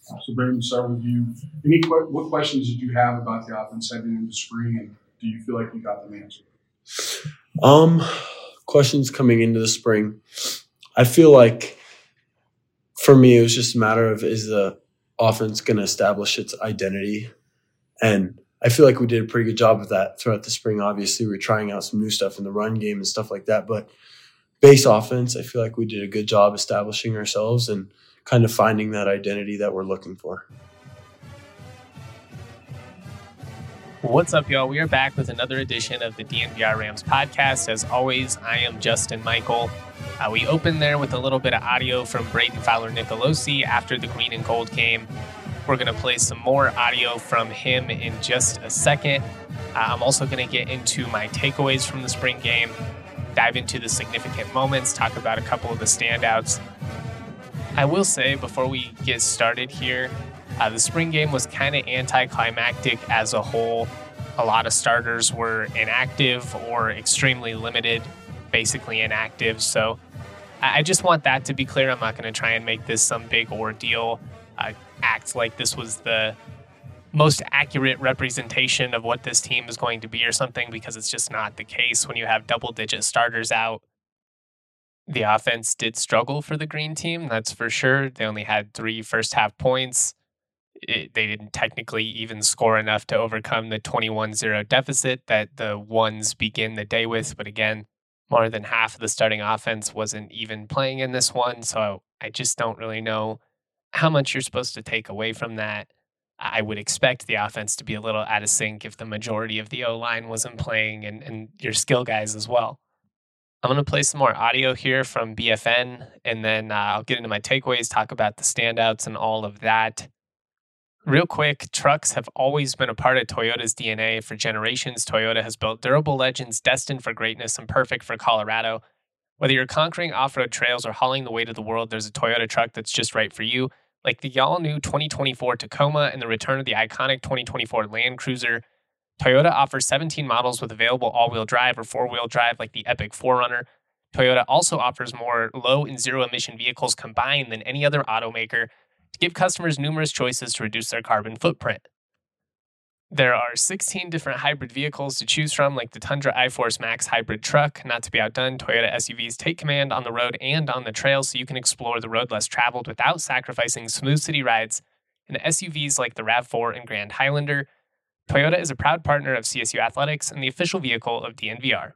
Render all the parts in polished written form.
So, Brandon, start with you. What questions did you have about the offense heading into the spring, and do you feel like you got them answered? Questions coming into the spring. I feel like for me, it was just a matter of, is the offense going to establish its identity? And I feel like we did a pretty good job of that throughout the spring. Obviously, we're trying out some new stuff in the run game and stuff like that. But base offense, I feel like we did a good job establishing ourselves and kind of finding that identity that we're looking for. What's up, y'all? We are back with another edition of the DNVR Rams podcast. As always, I am Justin Michael. We opened there with a little bit of audio from Braden Fowler-Nicolosi after the green and gold game. We're going to play some more audio from him in just a second. I'm also going to get into my takeaways from the spring game, dive into the significant moments, talk about a couple of the standouts. I will say before we get started here, the spring game was kind of anticlimactic as a whole. A lot of starters were inactive or extremely limited, basically inactive. So I just want that to be clear. I'm not going to try and make this some big ordeal, act like this was the most accurate representation of what this team is going to be or something, because it's just not the case when you have double-digit starters out. The offense did struggle for the green team, that's for sure. They only had 3 first-half points. They didn't technically even score enough to overcome the 21-0 deficit that the ones begin the day with. But again, more than half of the starting offense wasn't even playing in this one. So I just don't really know how much you're supposed to take away from that. I would expect the offense to be a little out of sync if the majority of the O-line wasn't playing and your skill guys as well. I'm going to play some more audio here from BFN, and then I'll get into my takeaways, talk about the standouts and all of that. Real quick, trucks have always been a part of Toyota's DNA. For generations, Toyota has built durable legends destined for greatness and perfect for Colorado. Whether you're conquering off-road trails or hauling the weight of the world, there's a Toyota truck that's just right for you. Like the all-new 2024 Tacoma and the return of the iconic 2024 Land Cruiser. Toyota offers 17 models with available all-wheel drive or four-wheel drive like the Epic 4Runner. Toyota also offers more low and zero-emission vehicles combined than any other automaker, to give customers numerous choices to reduce their carbon footprint. There are 16 different hybrid vehicles to choose from, like the Tundra iForce Max hybrid truck. Not to be outdone, Toyota SUVs take command on the road and on the trail, so you can explore the road less traveled without sacrificing smooth city rides. And SUVs like the RAV4 and Grand Highlander. Toyota is a proud partner of CSU Athletics and the official vehicle of DNVR.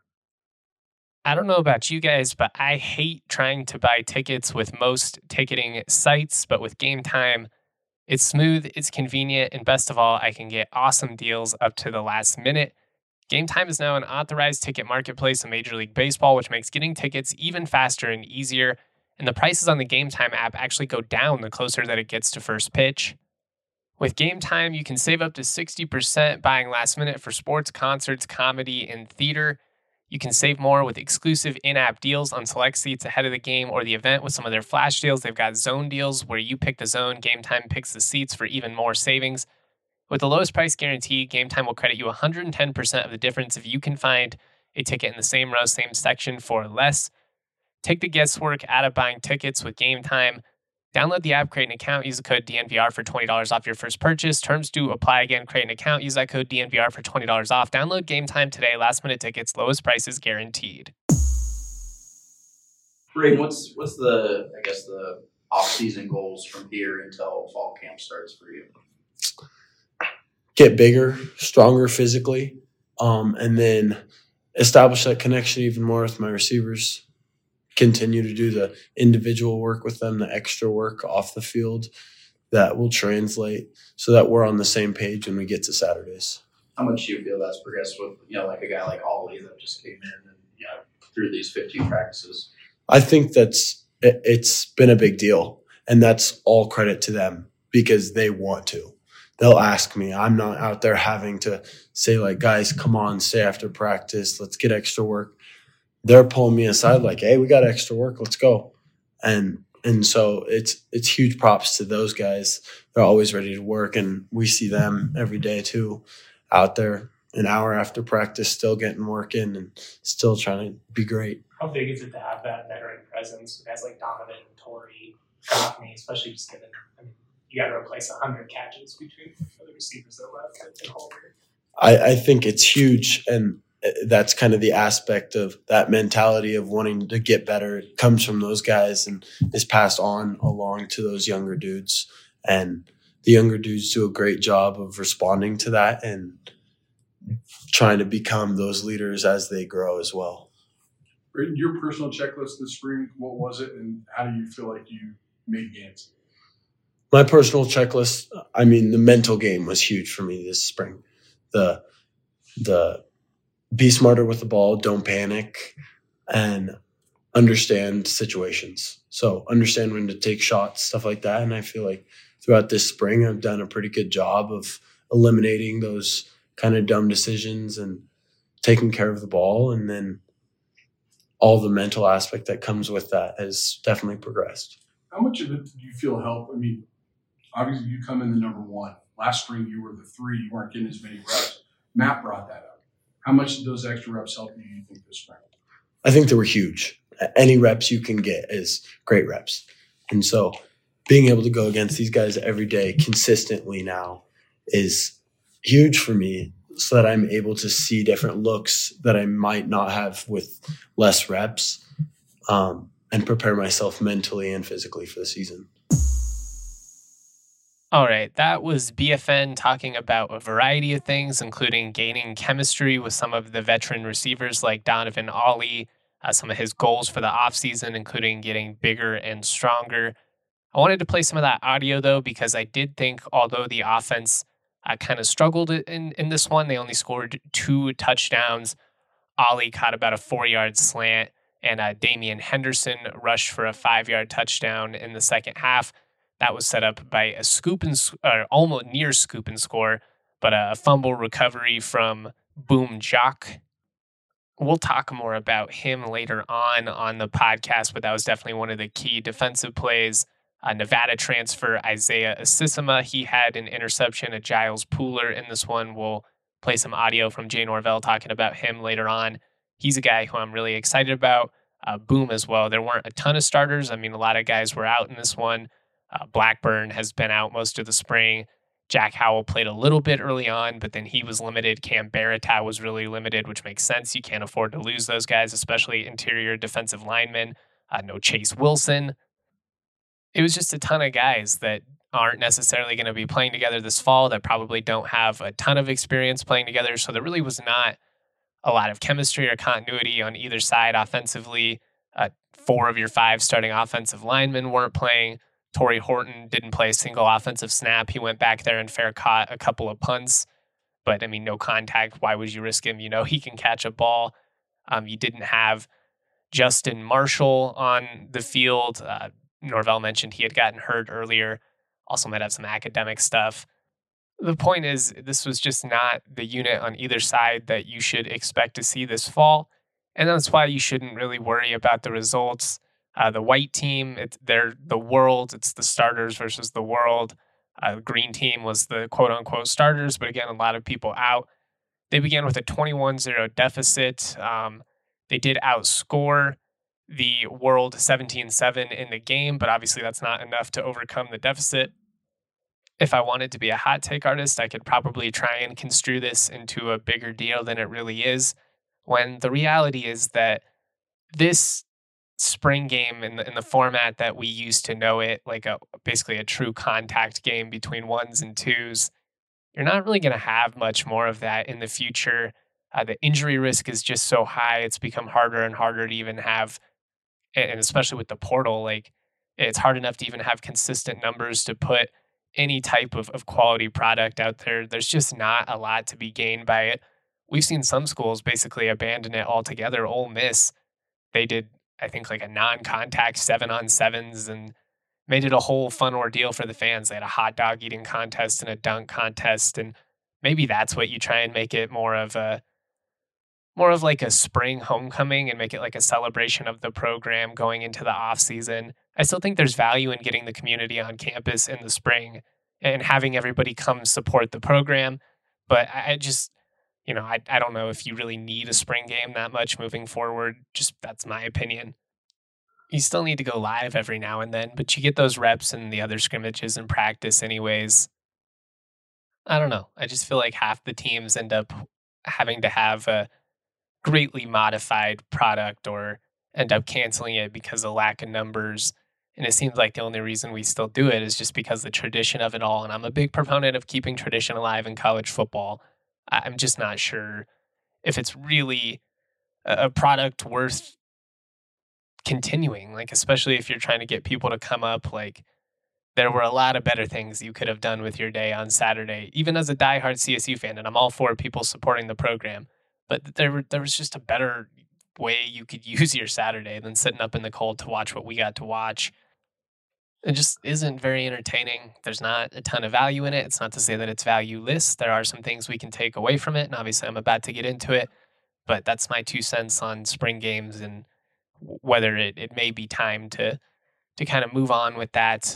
I don't know about you guys, but I hate trying to buy tickets with most ticketing sites, but with Game Time, it's smooth, it's convenient, and best of all, I can get awesome deals up to the last minute. Game Time is now an authorized ticket marketplace in Major League Baseball, which makes getting tickets even faster and easier, and the prices on the Game Time app actually go down the closer that it gets to first pitch. With Game Time, you can save up to 60% buying last minute for sports, concerts, comedy, and theater. You can save more with exclusive in-app deals on select seats ahead of the game or the event with some of their flash deals. They've got zone deals where you pick the zone, Game Time picks the seats for even more savings. With the lowest price guarantee, Game Time will credit you 110% of the difference if you can find a ticket in the same row, same section for less. Take the guesswork out of buying tickets with Game Time. Download the app, create an account, use the code DNVR for $20 off your first purchase. Terms do apply. Again, create an account, use that code DNVR for $20 off. Download Game Time today. Last minute tickets, lowest prices guaranteed. Braden, what's the off-season goals from here until fall camp starts for you? Get bigger, stronger physically, and then establish that connection even more with my receivers. Continue to do the individual work with them, the extra work off the field that will translate so that we're on the same page when we get to Saturdays. How much do you feel that's progressed with, like a guy like Ollie that just came in and, through these 15 practices? I think it's been a big deal, and that's all credit to them because they want to. They'll ask me. I'm not out there having to say, like, guys, come on, stay after practice. Let's get extra work. They're pulling me aside like, hey, we got extra work. Let's go. And so it's huge props to those guys. They're always ready to work, and we see them every day too, out there an hour after practice, still getting work in and still trying to be great. How big is it to have that veteran presence? Guys like Donovan, Torrey, Goffney, especially just given you got to replace 100 catches between the receivers that left and Holder. I think it's huge, and that's kind of the aspect of that mentality of wanting to get better. It comes from those guys and is passed on along to those younger dudes. And the younger dudes do a great job of responding to that and trying to become those leaders as they grow as well. Your personal checklist this spring, what was it, and how do you feel like you made gains? My personal checklist, I mean, the mental game was huge for me this spring. The be smarter with the ball, don't panic, and understand situations. So understand when to take shots, stuff like that. And I feel like throughout this spring, I've done a pretty good job of eliminating those kind of dumb decisions and taking care of the ball. And then all the mental aspect that comes with that has definitely progressed. How much of it do you feel help? I mean, obviously you come in the number one. Last spring you were the 3. You weren't getting as many reps. Matt brought that up. How much did those extra reps help you think, this spring? I think they were huge. Any reps you can get is great reps. And so being able to go against these guys every day consistently now is huge for me, so that I'm able to see different looks that I might not have with less reps, and prepare myself mentally and physically for the season. All right, that was BFN talking about a variety of things, including gaining chemistry with some of the veteran receivers like Donovan Ollie, some of his goals for the offseason, including getting bigger and stronger. I wanted to play some of that audio, though, because I did think, although the offense kind of struggled in this one, they only scored 2 touchdowns. Ollie caught about a 4-yard slant, and Damian Henderson rushed for a 5-yard touchdown in the second half. That was set up by a almost near scoop and score, but a fumble recovery from Boom Jock. We'll talk more about him later on the podcast, but that was definitely one of the key defensive plays. Nevada transfer Isaiah Asisima, he had an interception at Giles Pooler in this one. We'll play some audio from Jay Norvell talking about him later on. He's a guy who I'm really excited about. Boom as well. There weren't a ton of starters. I mean, a lot of guys were out in this one. Blackburn has been out most of the spring. Jack Howell played a little bit early on, but then he was limited. Cam Barata was really limited, which makes sense. You can't afford to lose those guys, especially interior defensive linemen. No Chase Wilson. It was just a ton of guys that aren't necessarily going to be playing together this fall, that probably don't have a ton of experience playing together. So there really was not a lot of chemistry or continuity on either side offensively. 4 of your 5 starting offensive linemen weren't playing. Torrey Horton didn't play a single offensive snap. He went back there and fair caught a couple of punts. But, I mean, no contact. Why would you risk him? You know, he can catch a ball. You didn't have Justin Marshall on the field. Norvell mentioned he had gotten hurt earlier. Also might have some academic stuff. The point is, this was just not the unit on either side that you should expect to see this fall. And that's why you shouldn't really worry about the results. The white team, they're the world. It's the starters versus the world. The green team was the quote-unquote starters, but again, a lot of people out. They began with a 21-0 deficit. They did outscore the world 17-7 in the game, but obviously that's not enough to overcome the deficit. If I wanted to be a hot take artist, I could probably try and construe this into a bigger deal than it really is, when the reality is that this spring game in the format that we used to know it, like basically a true contact game between 1s and 2s, you're not really going to have much more of that in the future. The injury risk is just so high. It's become harder and harder to even have, and especially with the portal, like it's hard enough to even have consistent numbers to put any type of quality product out there. There's just not a lot to be gained by it. We've seen some schools basically abandon it altogether. Ole Miss, they did, I think, like a non-contact 7-on-7s and made it a whole fun ordeal for the fans. They had a hot dog eating contest and a dunk contest, and maybe that's what you try and make it more of like a spring homecoming and make it like a celebration of the program going into the off season. I still think there's value in getting the community on campus in the spring and having everybody come support the program. But I just, I don't know if you really need a spring game that much moving forward. Just that's my opinion. You still need to go live every now and then, but you get those reps in the other scrimmages and practice anyways. I don't know. I just feel like half the teams end up having to have a greatly modified product or end up canceling it because of lack of numbers. And it seems like the only reason we still do it is just because the tradition of it all. And I'm a big proponent of keeping tradition alive in college football. I'm just not sure if it's really a product worth continuing, like, especially if you're trying to get people to come up. Like, there were a lot of better things you could have done with your day on Saturday, even as a diehard CSU fan. And I'm all for people supporting the program, but there was just a better way you could use your Saturday than sitting up in the cold to watch what we got to watch. It just isn't very entertaining. There's not a ton of value in it. It's not to say that it's valueless. There are some things we can take away from it, and obviously I'm about to get into it, but that's my 2 cents on spring games and whether it may be time to kind of move on with that.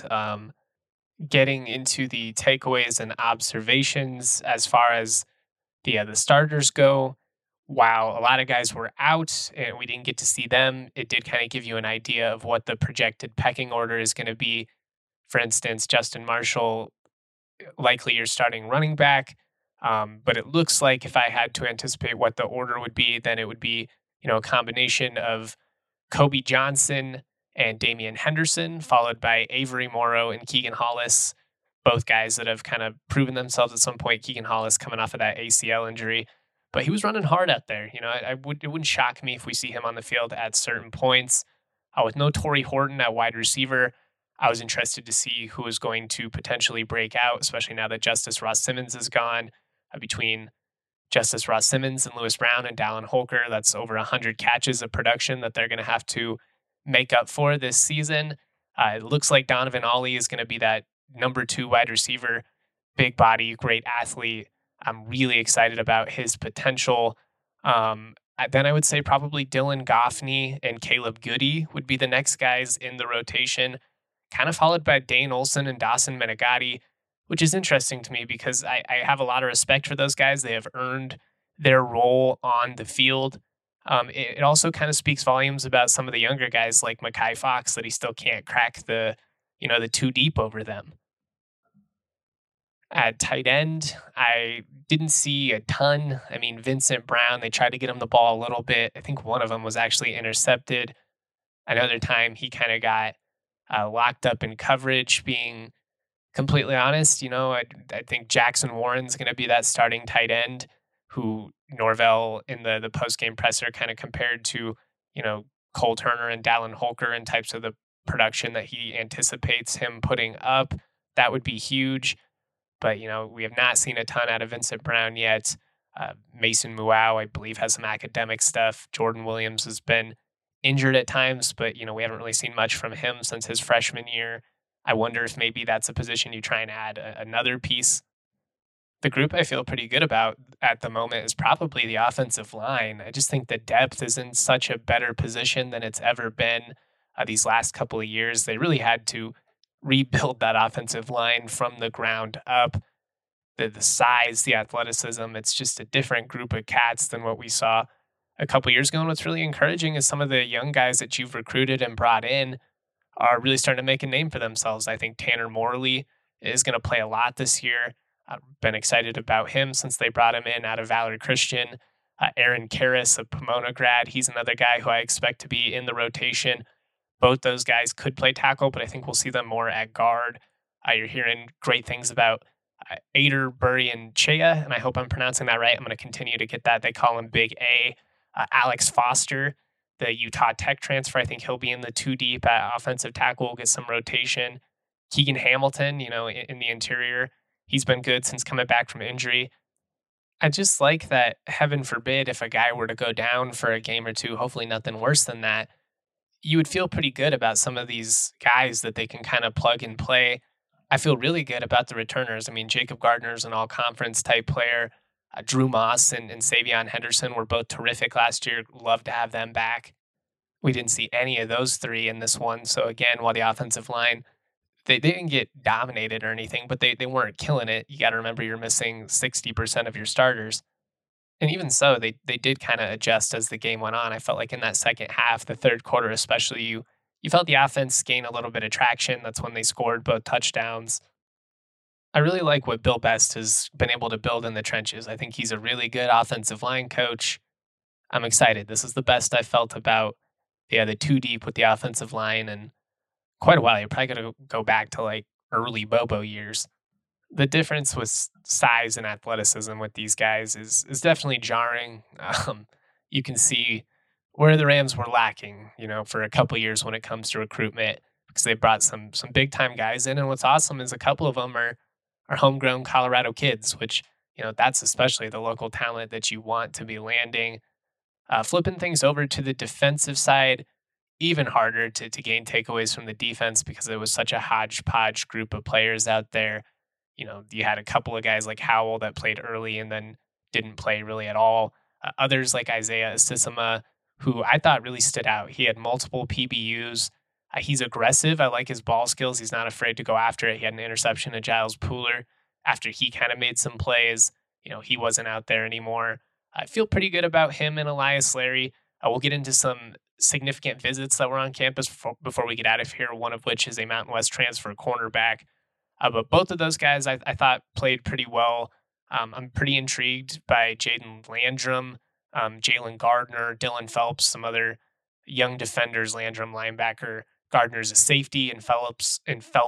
Getting into the takeaways and observations as far as the starters go, while a lot of guys were out and we didn't get to see them, it did kind of give you an idea of what the projected pecking order is going to be. For instance, Justin Marshall, likely your starting running back. But it looks like if I had to anticipate what the order would be, then it would be, a combination of Kobe Johnson and Damian Henderson, followed by Avery Morrow and Keegan Hollis, both guys that have kind of proven themselves at some point. Keegan Hollis coming off of that ACL injury, but he was running hard out there. It wouldn't shock me if we see him on the field at certain points. With no Torrey Horton at wide receiver, I was interested to see who was going to potentially break out, especially now that Justice Ross Simmons is gone. Between Justice Ross Simmons and Lewis Brown and Dallin Holker, that's over 100 catches of production that they're going to have to make up for this season. It looks like Donovan Ollie is going to be that number 2 wide receiver, big body, great athlete. I'm really excited about his potential. Then I would say probably Dylan Goffney and Caleb Goody would be the next guys in the rotation, kind of followed by Dane Olson and Dawson Menegatti, which is interesting to me because I have a lot of respect for those guys. They have earned their role on the field. It also kind of speaks volumes about some of the younger guys like Mekhi Fox, that he still can't crack the 2 deep over them. At tight end, I didn't see a ton. I mean, Vincent Brown, they tried to get him the ball a little bit. I think one of them was actually intercepted. Another time he kind of got locked up in coverage. Being completely honest, I think Jackson Warren's going to be that starting tight end who Norvell in the post-game presser kind of compared to, Cole Turner and Dallin Holker and types of the production that he anticipates him putting up. That would be huge. But, we have not seen a ton out of Vincent Brown yet. Mason Muau, I believe, has some academic stuff. Jordan Williams has been injured at times, but, we haven't really seen much from him since his freshman year. I wonder if maybe that's a position you try and add another piece. The group I feel pretty good about at the moment is probably the offensive line. I just think the depth is in such a better position than it's ever been these last couple of years. They really had to rebuild that offensive line from the ground up. The size, the athleticism, it's just a different group of cats than what we saw a couple years ago. And what's really encouraging is some of the young guys that you've recruited and brought in are really starting to make a name for themselves. I think Tanner Morley is going to play a lot this year. I've been excited about him since they brought him in out of Valor Christian. Aaron Karras, a Pomona grad, he's another guy who I expect to be in the rotation. Both those guys could play tackle, but I think we'll see them more at guard. You're hearing great things about Ader Burry-Chea, and I hope I'm pronouncing that right. I'm going to continue to get that. They call him Big A. Alex Foster, the Utah Tech transfer, I think he'll be in the 2 deep at offensive tackle, will get some rotation. Keegan Hamilton, in the interior, he's been good since coming back from injury. I just like that, heaven forbid, if a guy were to go down for a game or two, hopefully nothing worse than that, you would feel pretty good about some of these guys that they can kind of plug and play. I feel really good about the returners. I mean, Jacob Gardner's an all-conference type player. Drew Moss and Savion Henderson were both terrific last year. Love to have them back. We didn't see any of those 3 in this one. So again, while the offensive line, they didn't get dominated or anything, but they weren't killing it. You got to remember you're missing 60% of your starters. And even so, they did kind of adjust as the game went on. I felt like in that second half, the third quarter especially, you You felt the offense gain a little bit of traction. That's when they scored both touchdowns. I really like what Bill Best has been able to build in the trenches. I think he's a really good offensive line coach. I'm excited. This is the best I've felt about the two deep with the offensive line in quite a while. You're probably going to go back to like early Bobo years. The difference with size and athleticism with these guys is definitely jarring. You can see where the Rams were lacking, for a couple years when it comes to recruitment, because they brought some big time guys in. And what's awesome is a couple of them are homegrown Colorado kids, which, that's especially the local talent that you want to be landing. Flipping things over to the defensive side, even harder to gain takeaways from the defense because it was such a hodgepodge group of players out there. You had a couple of guys like Howell that played early and then didn't play really at all. Others like Isaiah Asisima, who I thought really stood out. He had multiple PBUs. He's aggressive. I like his ball skills. He's not afraid to go after it. He had an interception to Giles Pooler after he kind of made some plays. He wasn't out there anymore. I feel pretty good about him and Elias Larry. We'll get into some significant visits that were on campus before we get out of here, one of which is a Mountain West transfer cornerback. But both of those guys I thought played pretty well. I'm pretty intrigued by Jaden Landrum, Jalen Gardner, Dylan Phelps, some other young defenders. Landrum linebacker, Gardner's a safety, and Phelps,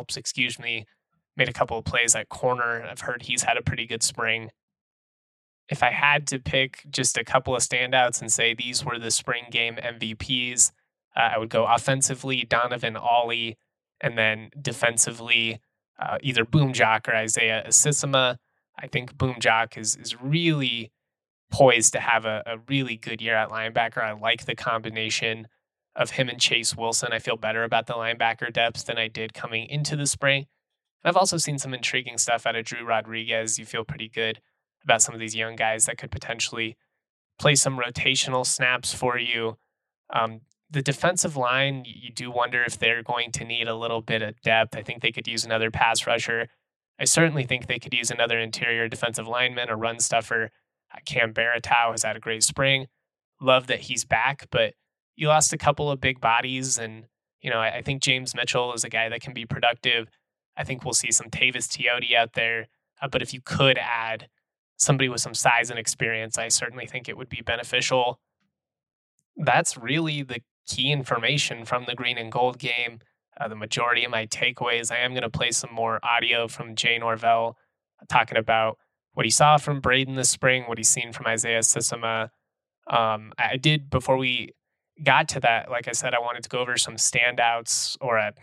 made a couple of plays at corner. I've heard he's had a pretty good spring. If I had to pick just a couple of standouts and say these were the spring game MVPs, I would go offensively Donovan Ollie, and then defensively either Boom Jock or Isaiah Asisima. I think Boom Jock is really poised to have a really good year at linebacker. I like the combination of him and Chase Wilson. I feel better about the linebacker depth than I did coming into the spring. I've also seen some intriguing stuff out of Drew Rodriguez. You feel pretty good about some of these young guys that could potentially play some rotational snaps for you. The defensive line, you do wonder if they're going to need a little bit of depth. I think they could use another pass rusher. I certainly think they could use another interior defensive lineman, a run stuffer. Cam Baratow has had a great spring. Love that he's back, but you lost a couple of big bodies. And, I think James Mitchell is a guy that can be productive. I think we'll see some Tavis Teote out there. But if you could add somebody with some size and experience, I certainly think it would be beneficial. That's really the key information from the green and gold game. The majority of my takeaways, I am going to play some more audio from Jay Norvell talking about what he saw from Braden this spring, what he's seen from Isaiah Asisima. I did, before we got to that, like I said, I wanted to go over some standouts,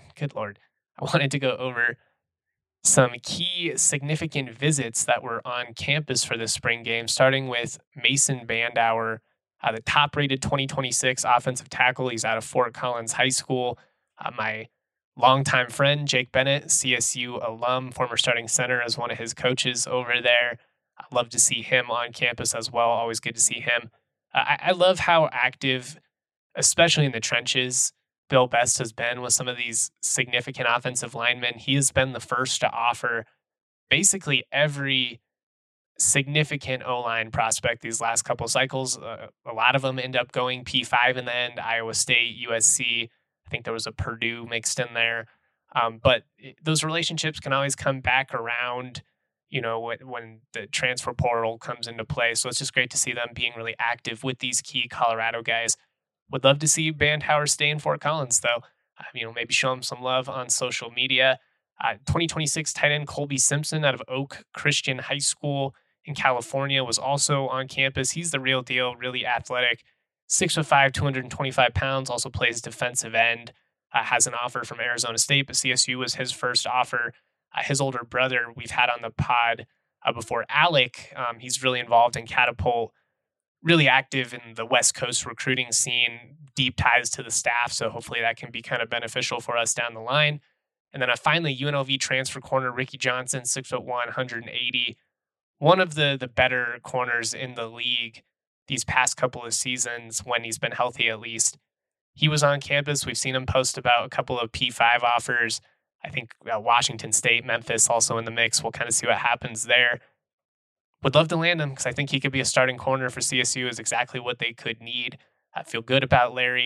I wanted to go over some key significant visits that were on campus for this spring game, starting with Mason Bandauer, the top-rated 2026 offensive tackle. He's out of Fort Collins High School. My longtime friend, Jake Bennett, CSU alum, former starting center, as one of his coaches over there. I'd love to see him on campus as well. Always good to see him. I love how active, especially in the trenches, Bill Best has been with some of these significant offensive linemen. He has been the first to offer basically every significant O-line prospect these last couple cycles. A lot of them end up going P5 in the end. Iowa State, USC. I think there was a Purdue mixed in there. But those relationships can always come back around, when the transfer portal comes into play. So it's just great to see them being really active with these key Colorado guys. Would love to see Bandauer stay in Fort Collins, though. Maybe show him some love on social media. 2026 tight end Colby Simpson out of Oak Christian High School in California was also on campus. He's the real deal, really athletic. 6'5", 225 pounds, also plays defensive end. Has an offer from Arizona State, but CSU was his first offer. His older brother we've had on the pod before, Alec. He's really involved in Catapult, really active in the West Coast recruiting scene, deep ties to the staff. So hopefully that can be kind of beneficial for us down the line. And then finally, UNLV transfer corner Ricky Johnson, 6'1", 180. One of the better corners in the league these past couple of seasons, when he's been healthy at least. He was on campus. We've seen him post about a couple of P5 offers. I think Washington State, Memphis also in the mix. We'll kind of see what happens there. Would love to land him because I think he could be a starting corner for CSU, is exactly what they could need. I feel good about Larry.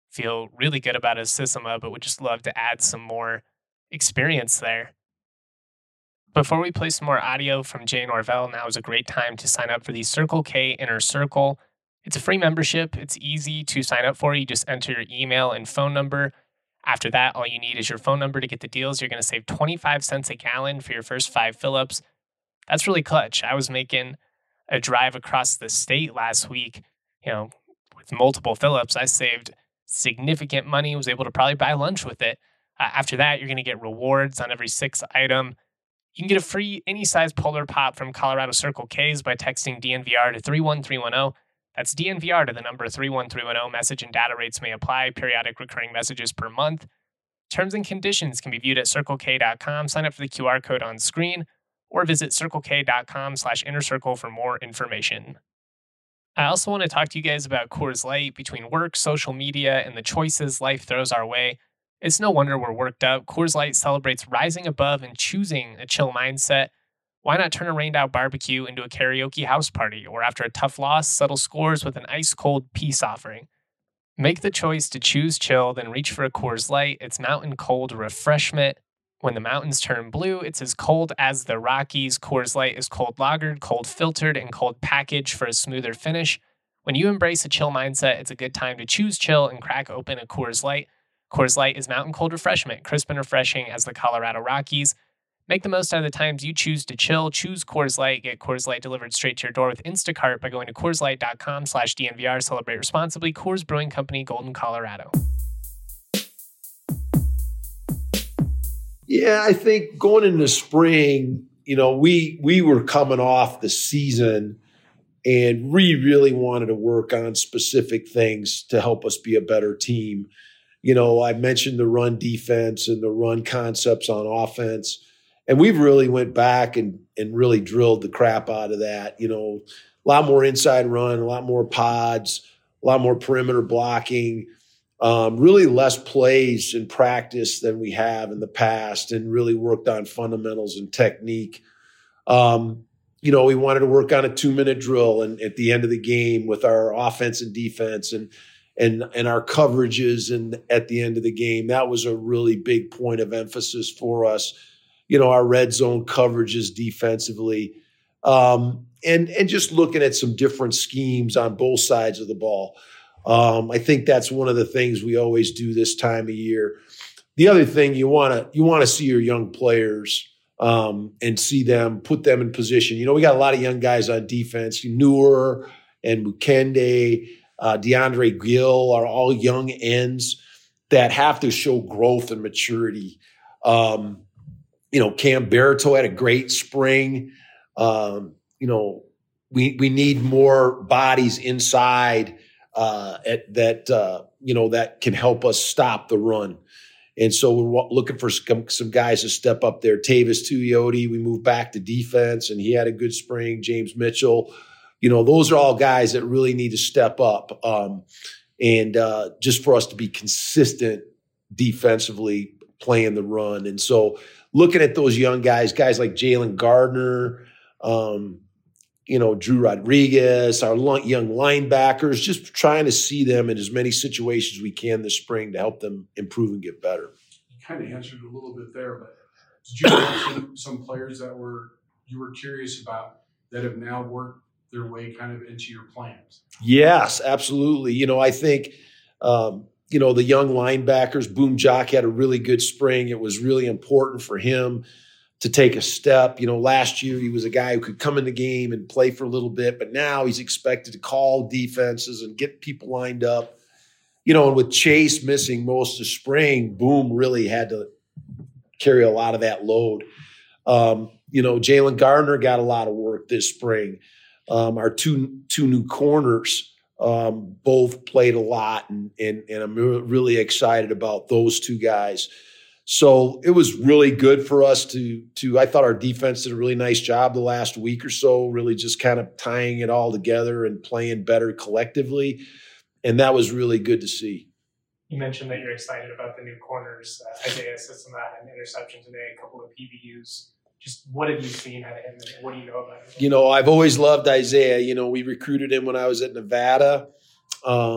feel really good about his system, but would just love to add some more experience there. Before we play some more audio from Jay Norvell, now is a great time to sign up for the Circle K Inner Circle. It's a free membership. It's easy to sign up for. You just enter your email and phone number. After that, all you need is your phone number to get the deals. You're going to save 25 cents a gallon for your first 5 fill-ups. That's really clutch. I was making a drive across the state last week, with multiple fill-ups. I saved significant money, was able to probably buy lunch with it. After that, you're going to get rewards on every 6th item. You can get a free any size Polar Pop from Colorado Circle K's by texting DNVR to 31310. That's DNVR to the number 31310. Message and data rates may apply. Periodic recurring messages per month. Terms and conditions can be viewed at CircleK.com. Sign up for the QR code on screen or visit CircleK.com/InnerCircle for more information. I also want to talk to you guys about Coors Light. Between work, social media, and the choices life throws our way, it's no wonder we're worked up. Coors Light celebrates rising above and choosing a chill mindset. Why not turn a rained-out barbecue into a karaoke house party, or after a tough loss, settle scores with an ice-cold peace offering? Make the choice to choose chill, then reach for a Coors Light. It's mountain cold refreshment. When the mountains turn blue, it's as cold as the Rockies. Coors Light is cold lagered, cold filtered, and cold packaged for a smoother finish. When you embrace a chill mindset, it's a good time to choose chill and crack open a Coors Light. Coors Light is mountain cold refreshment, crisp and refreshing as the Colorado Rockies. Make the most out of the times you choose to chill. Choose Coors Light. Get Coors Light delivered straight to your door with Instacart by going to CoorsLight.com/DNVR. Celebrate responsibly. Coors Brewing Company, Golden, Colorado. Yeah, I think going into spring, we were coming off the season and we really wanted to work on specific things to help us be a better team. I mentioned the run defense and the run concepts on offense. And we've really went back and really drilled the crap out of that. A lot more inside run, a lot more pods, a lot more perimeter blocking, really less plays in practice than we have in the past, and really worked on fundamentals and technique. We wanted to work on a 2-minute drill and at the end of the game with our offense and defense and our coverages. And at the end of the game, that was a really big point of emphasis for us. Our red zone coverages defensively, and just looking at some different schemes on both sides of the ball. I think that's one of the things we always do this time of year. The other thing, you want to see your young players and see them, put them in position. We got a lot of young guys on defense. Newer and Mukende, DeAndre Gill are all young ends that have to show growth and maturity. Cam Barreto had a great spring. We need more bodies inside that can help us stop the run. And so we're looking for some guys to step up there. Tavis Tuioti, we moved back to defense, and he had a good spring. James Mitchell, those are all guys that really need to step up. And just for us to be consistent defensively playing the run. And so looking at those young guys like Jalen Gardner, Drew Rodriguez, our young linebackers, just trying to see them in as many situations we can this spring to help them improve and get better. You kind of answered a little bit there, but did you mention some players that you were curious about that have now worked their way kind of into your plans? Yes, absolutely. I think the young linebackers, Boom Jock had a really good spring. It was really important for him to take a step. Last year he was a guy who could come in the game and play for a little bit, but now he's expected to call defenses and get people lined up. And with Chase missing most of spring, Boom really had to carry a lot of that load. Jalen Gardner got a lot of work this spring. Our two new corners both played a lot, and I'm really excited about those two guys. So it was really good for us to I thought our defense did a really nice job the last week or so, really just kind of tying it all together and playing better collectively. And that was really good to see. You mentioned that you're excited about the new corners. Isaiah System had an interception today, a couple of PBUs. Just what have you seen out of him, and what do you know about him? I've always loved Isaiah. We recruited him when I was at Nevada.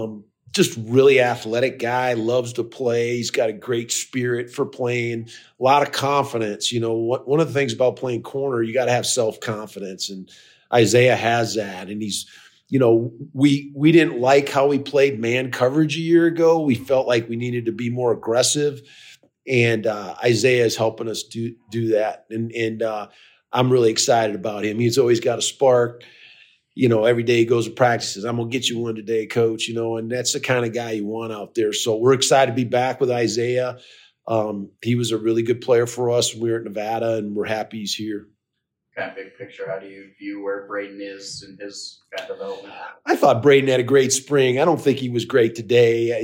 just really athletic guy, loves to play. He's got a great spirit for playing, a lot of confidence. You know, one of the things about playing corner, you got to have self-confidence, and Isaiah has that. And he's, you know, we didn't like how he played man coverage a year ago. We felt like we needed to be more aggressive, and Isaiah is helping us do that. And I'm really excited about him. He's always got a spark. You know, every day he goes to practices. I'm going to get you one today, coach, you know, and that's the kind of guy you want out there. So we're excited to be back with Isaiah. He was a really good player for us when we were at Nevada, and we're happy he's here. Kind of big picture, how do you view where Braden is in his kind of development? I thought Braden had a great spring. I don't think he was great today.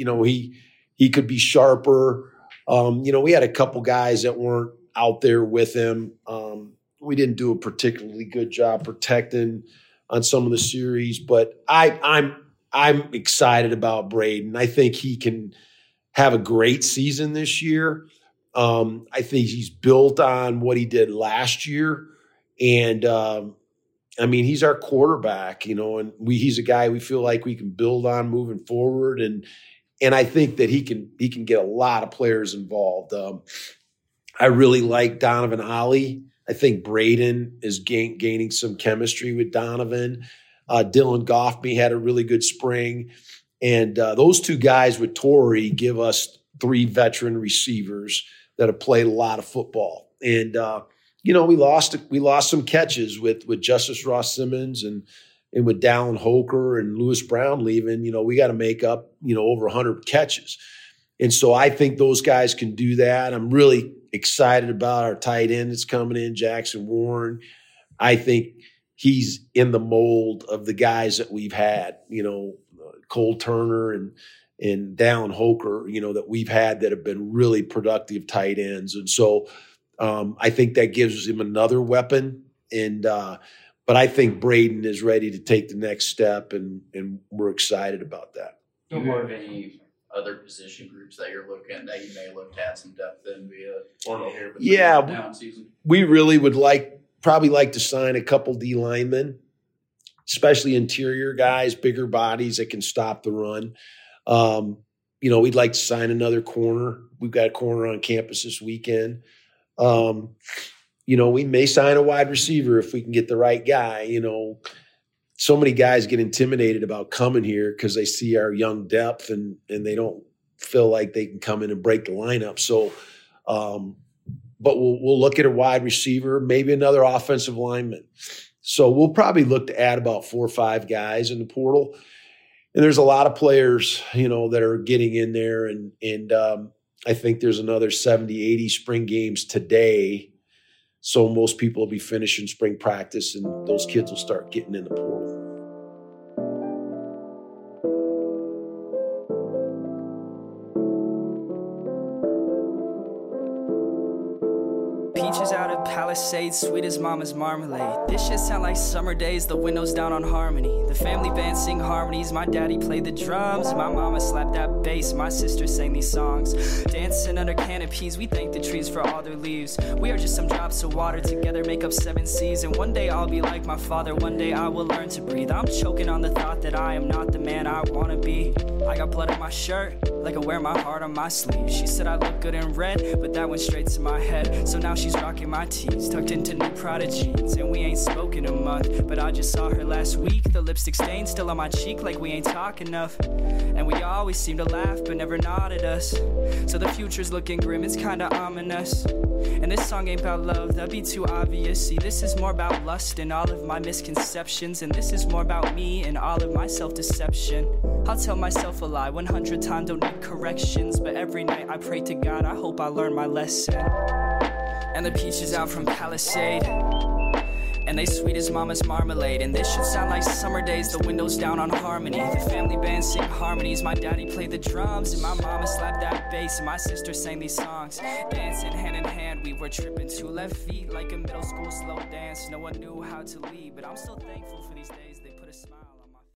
He could be sharper. You know, we had a couple guys that weren't out there with him. We didn't do a particularly good job protecting on some of the series, but I'm excited about Braden. I think he can have a great season this year. I think he's built on what he did last year. And I mean, he's our quarterback, you know, and he's a guy we feel like we can build on moving forward. And I think that he can get a lot of players involved. I really like Donovan Ollie. I think Braden is gaining some chemistry with Donovan. Dylan Goffney had a really good spring. And those two guys with Torrey give us 3 veteran receivers that have played a lot of football. And, you know, we lost some catches with Justice Ross Simmons and with Dallin Hoker and Lewis Brown leaving. You know, we got to make up, you know, over 100 catches. And so I think those guys can do that. I'm really excited about our tight end that's coming in, Jackson Warren. I think he's in the mold of the guys that we've had, you know, Cole Turner and Dallin Hoker, you know, that we've had that have been really productive tight ends. And so I think that gives him another weapon. And but I think Braden is ready to take the next step, and we're excited about that. Do you have any other position groups that you're looking that you may look at some depth in via portal here? Yeah, we really would probably like to sign a couple D linemen, especially interior guys, bigger bodies that can stop the run. You know, we'd like to sign another corner. We've got a corner on campus this weekend. You know, we may sign a wide receiver if we can get the right guy. You know, so many guys get intimidated about coming here because they see our young depth and they don't feel like they can come in and break the lineup. So, but we'll look at a wide receiver, maybe another offensive lineman. So we'll probably look to add about 4 or 5 guys in the portal. And there's a lot of players, you know, that are getting in there. And I think there's another 70, 80 spring games today. So most people will be finishing spring practice, and those kids will start getting in the portal. Peaches out of Palisades, sweet as mama's marmalade. This shit sound like summer days, the windows down on Harmony. The family band sing harmonies, my daddy played the drums. My mama slapped that bass, my sister sang these songs. Dancing under canopies, we thank the trees for all their leaves. We are just some drops of water, together make up 7 seas. And one day I'll be like my father, one day I will learn to breathe. I'm choking on the thought that I am not the man I wanna be. I got blood on my shirt, like I wear my heart on my sleeve. She said I look good in red, but that went straight to my head. So now she's rocking my tees, tucked into new Prada jeans. And we ain't spoken a month, but I just saw her last week. The lipstick stain still on my cheek, like we ain't talk enough. And we always seem to laugh, but never nod at us. So the future's looking grim, it's kinda ominous. And this song ain't about love, that'd be too obvious. See, this is more about lust and all of my misconceptions. And this is more about me and all of my self-deception. I'll tell myself a lie 100 times, don't need corrections. But every night I pray to God, I hope I learn my lesson. And the peaches out from Palisade, and they sweet as mama's marmalade. And this should sound like summer days, the windows down on Harmony. The family band sing harmonies, my daddy played the drums. And my mama slapped that bass, and my sister sang these songs. Dancing hand in hand, we were tripping 2 left feet like a middle school slow dance. No one knew how to lead, but I'm still thankful for these days.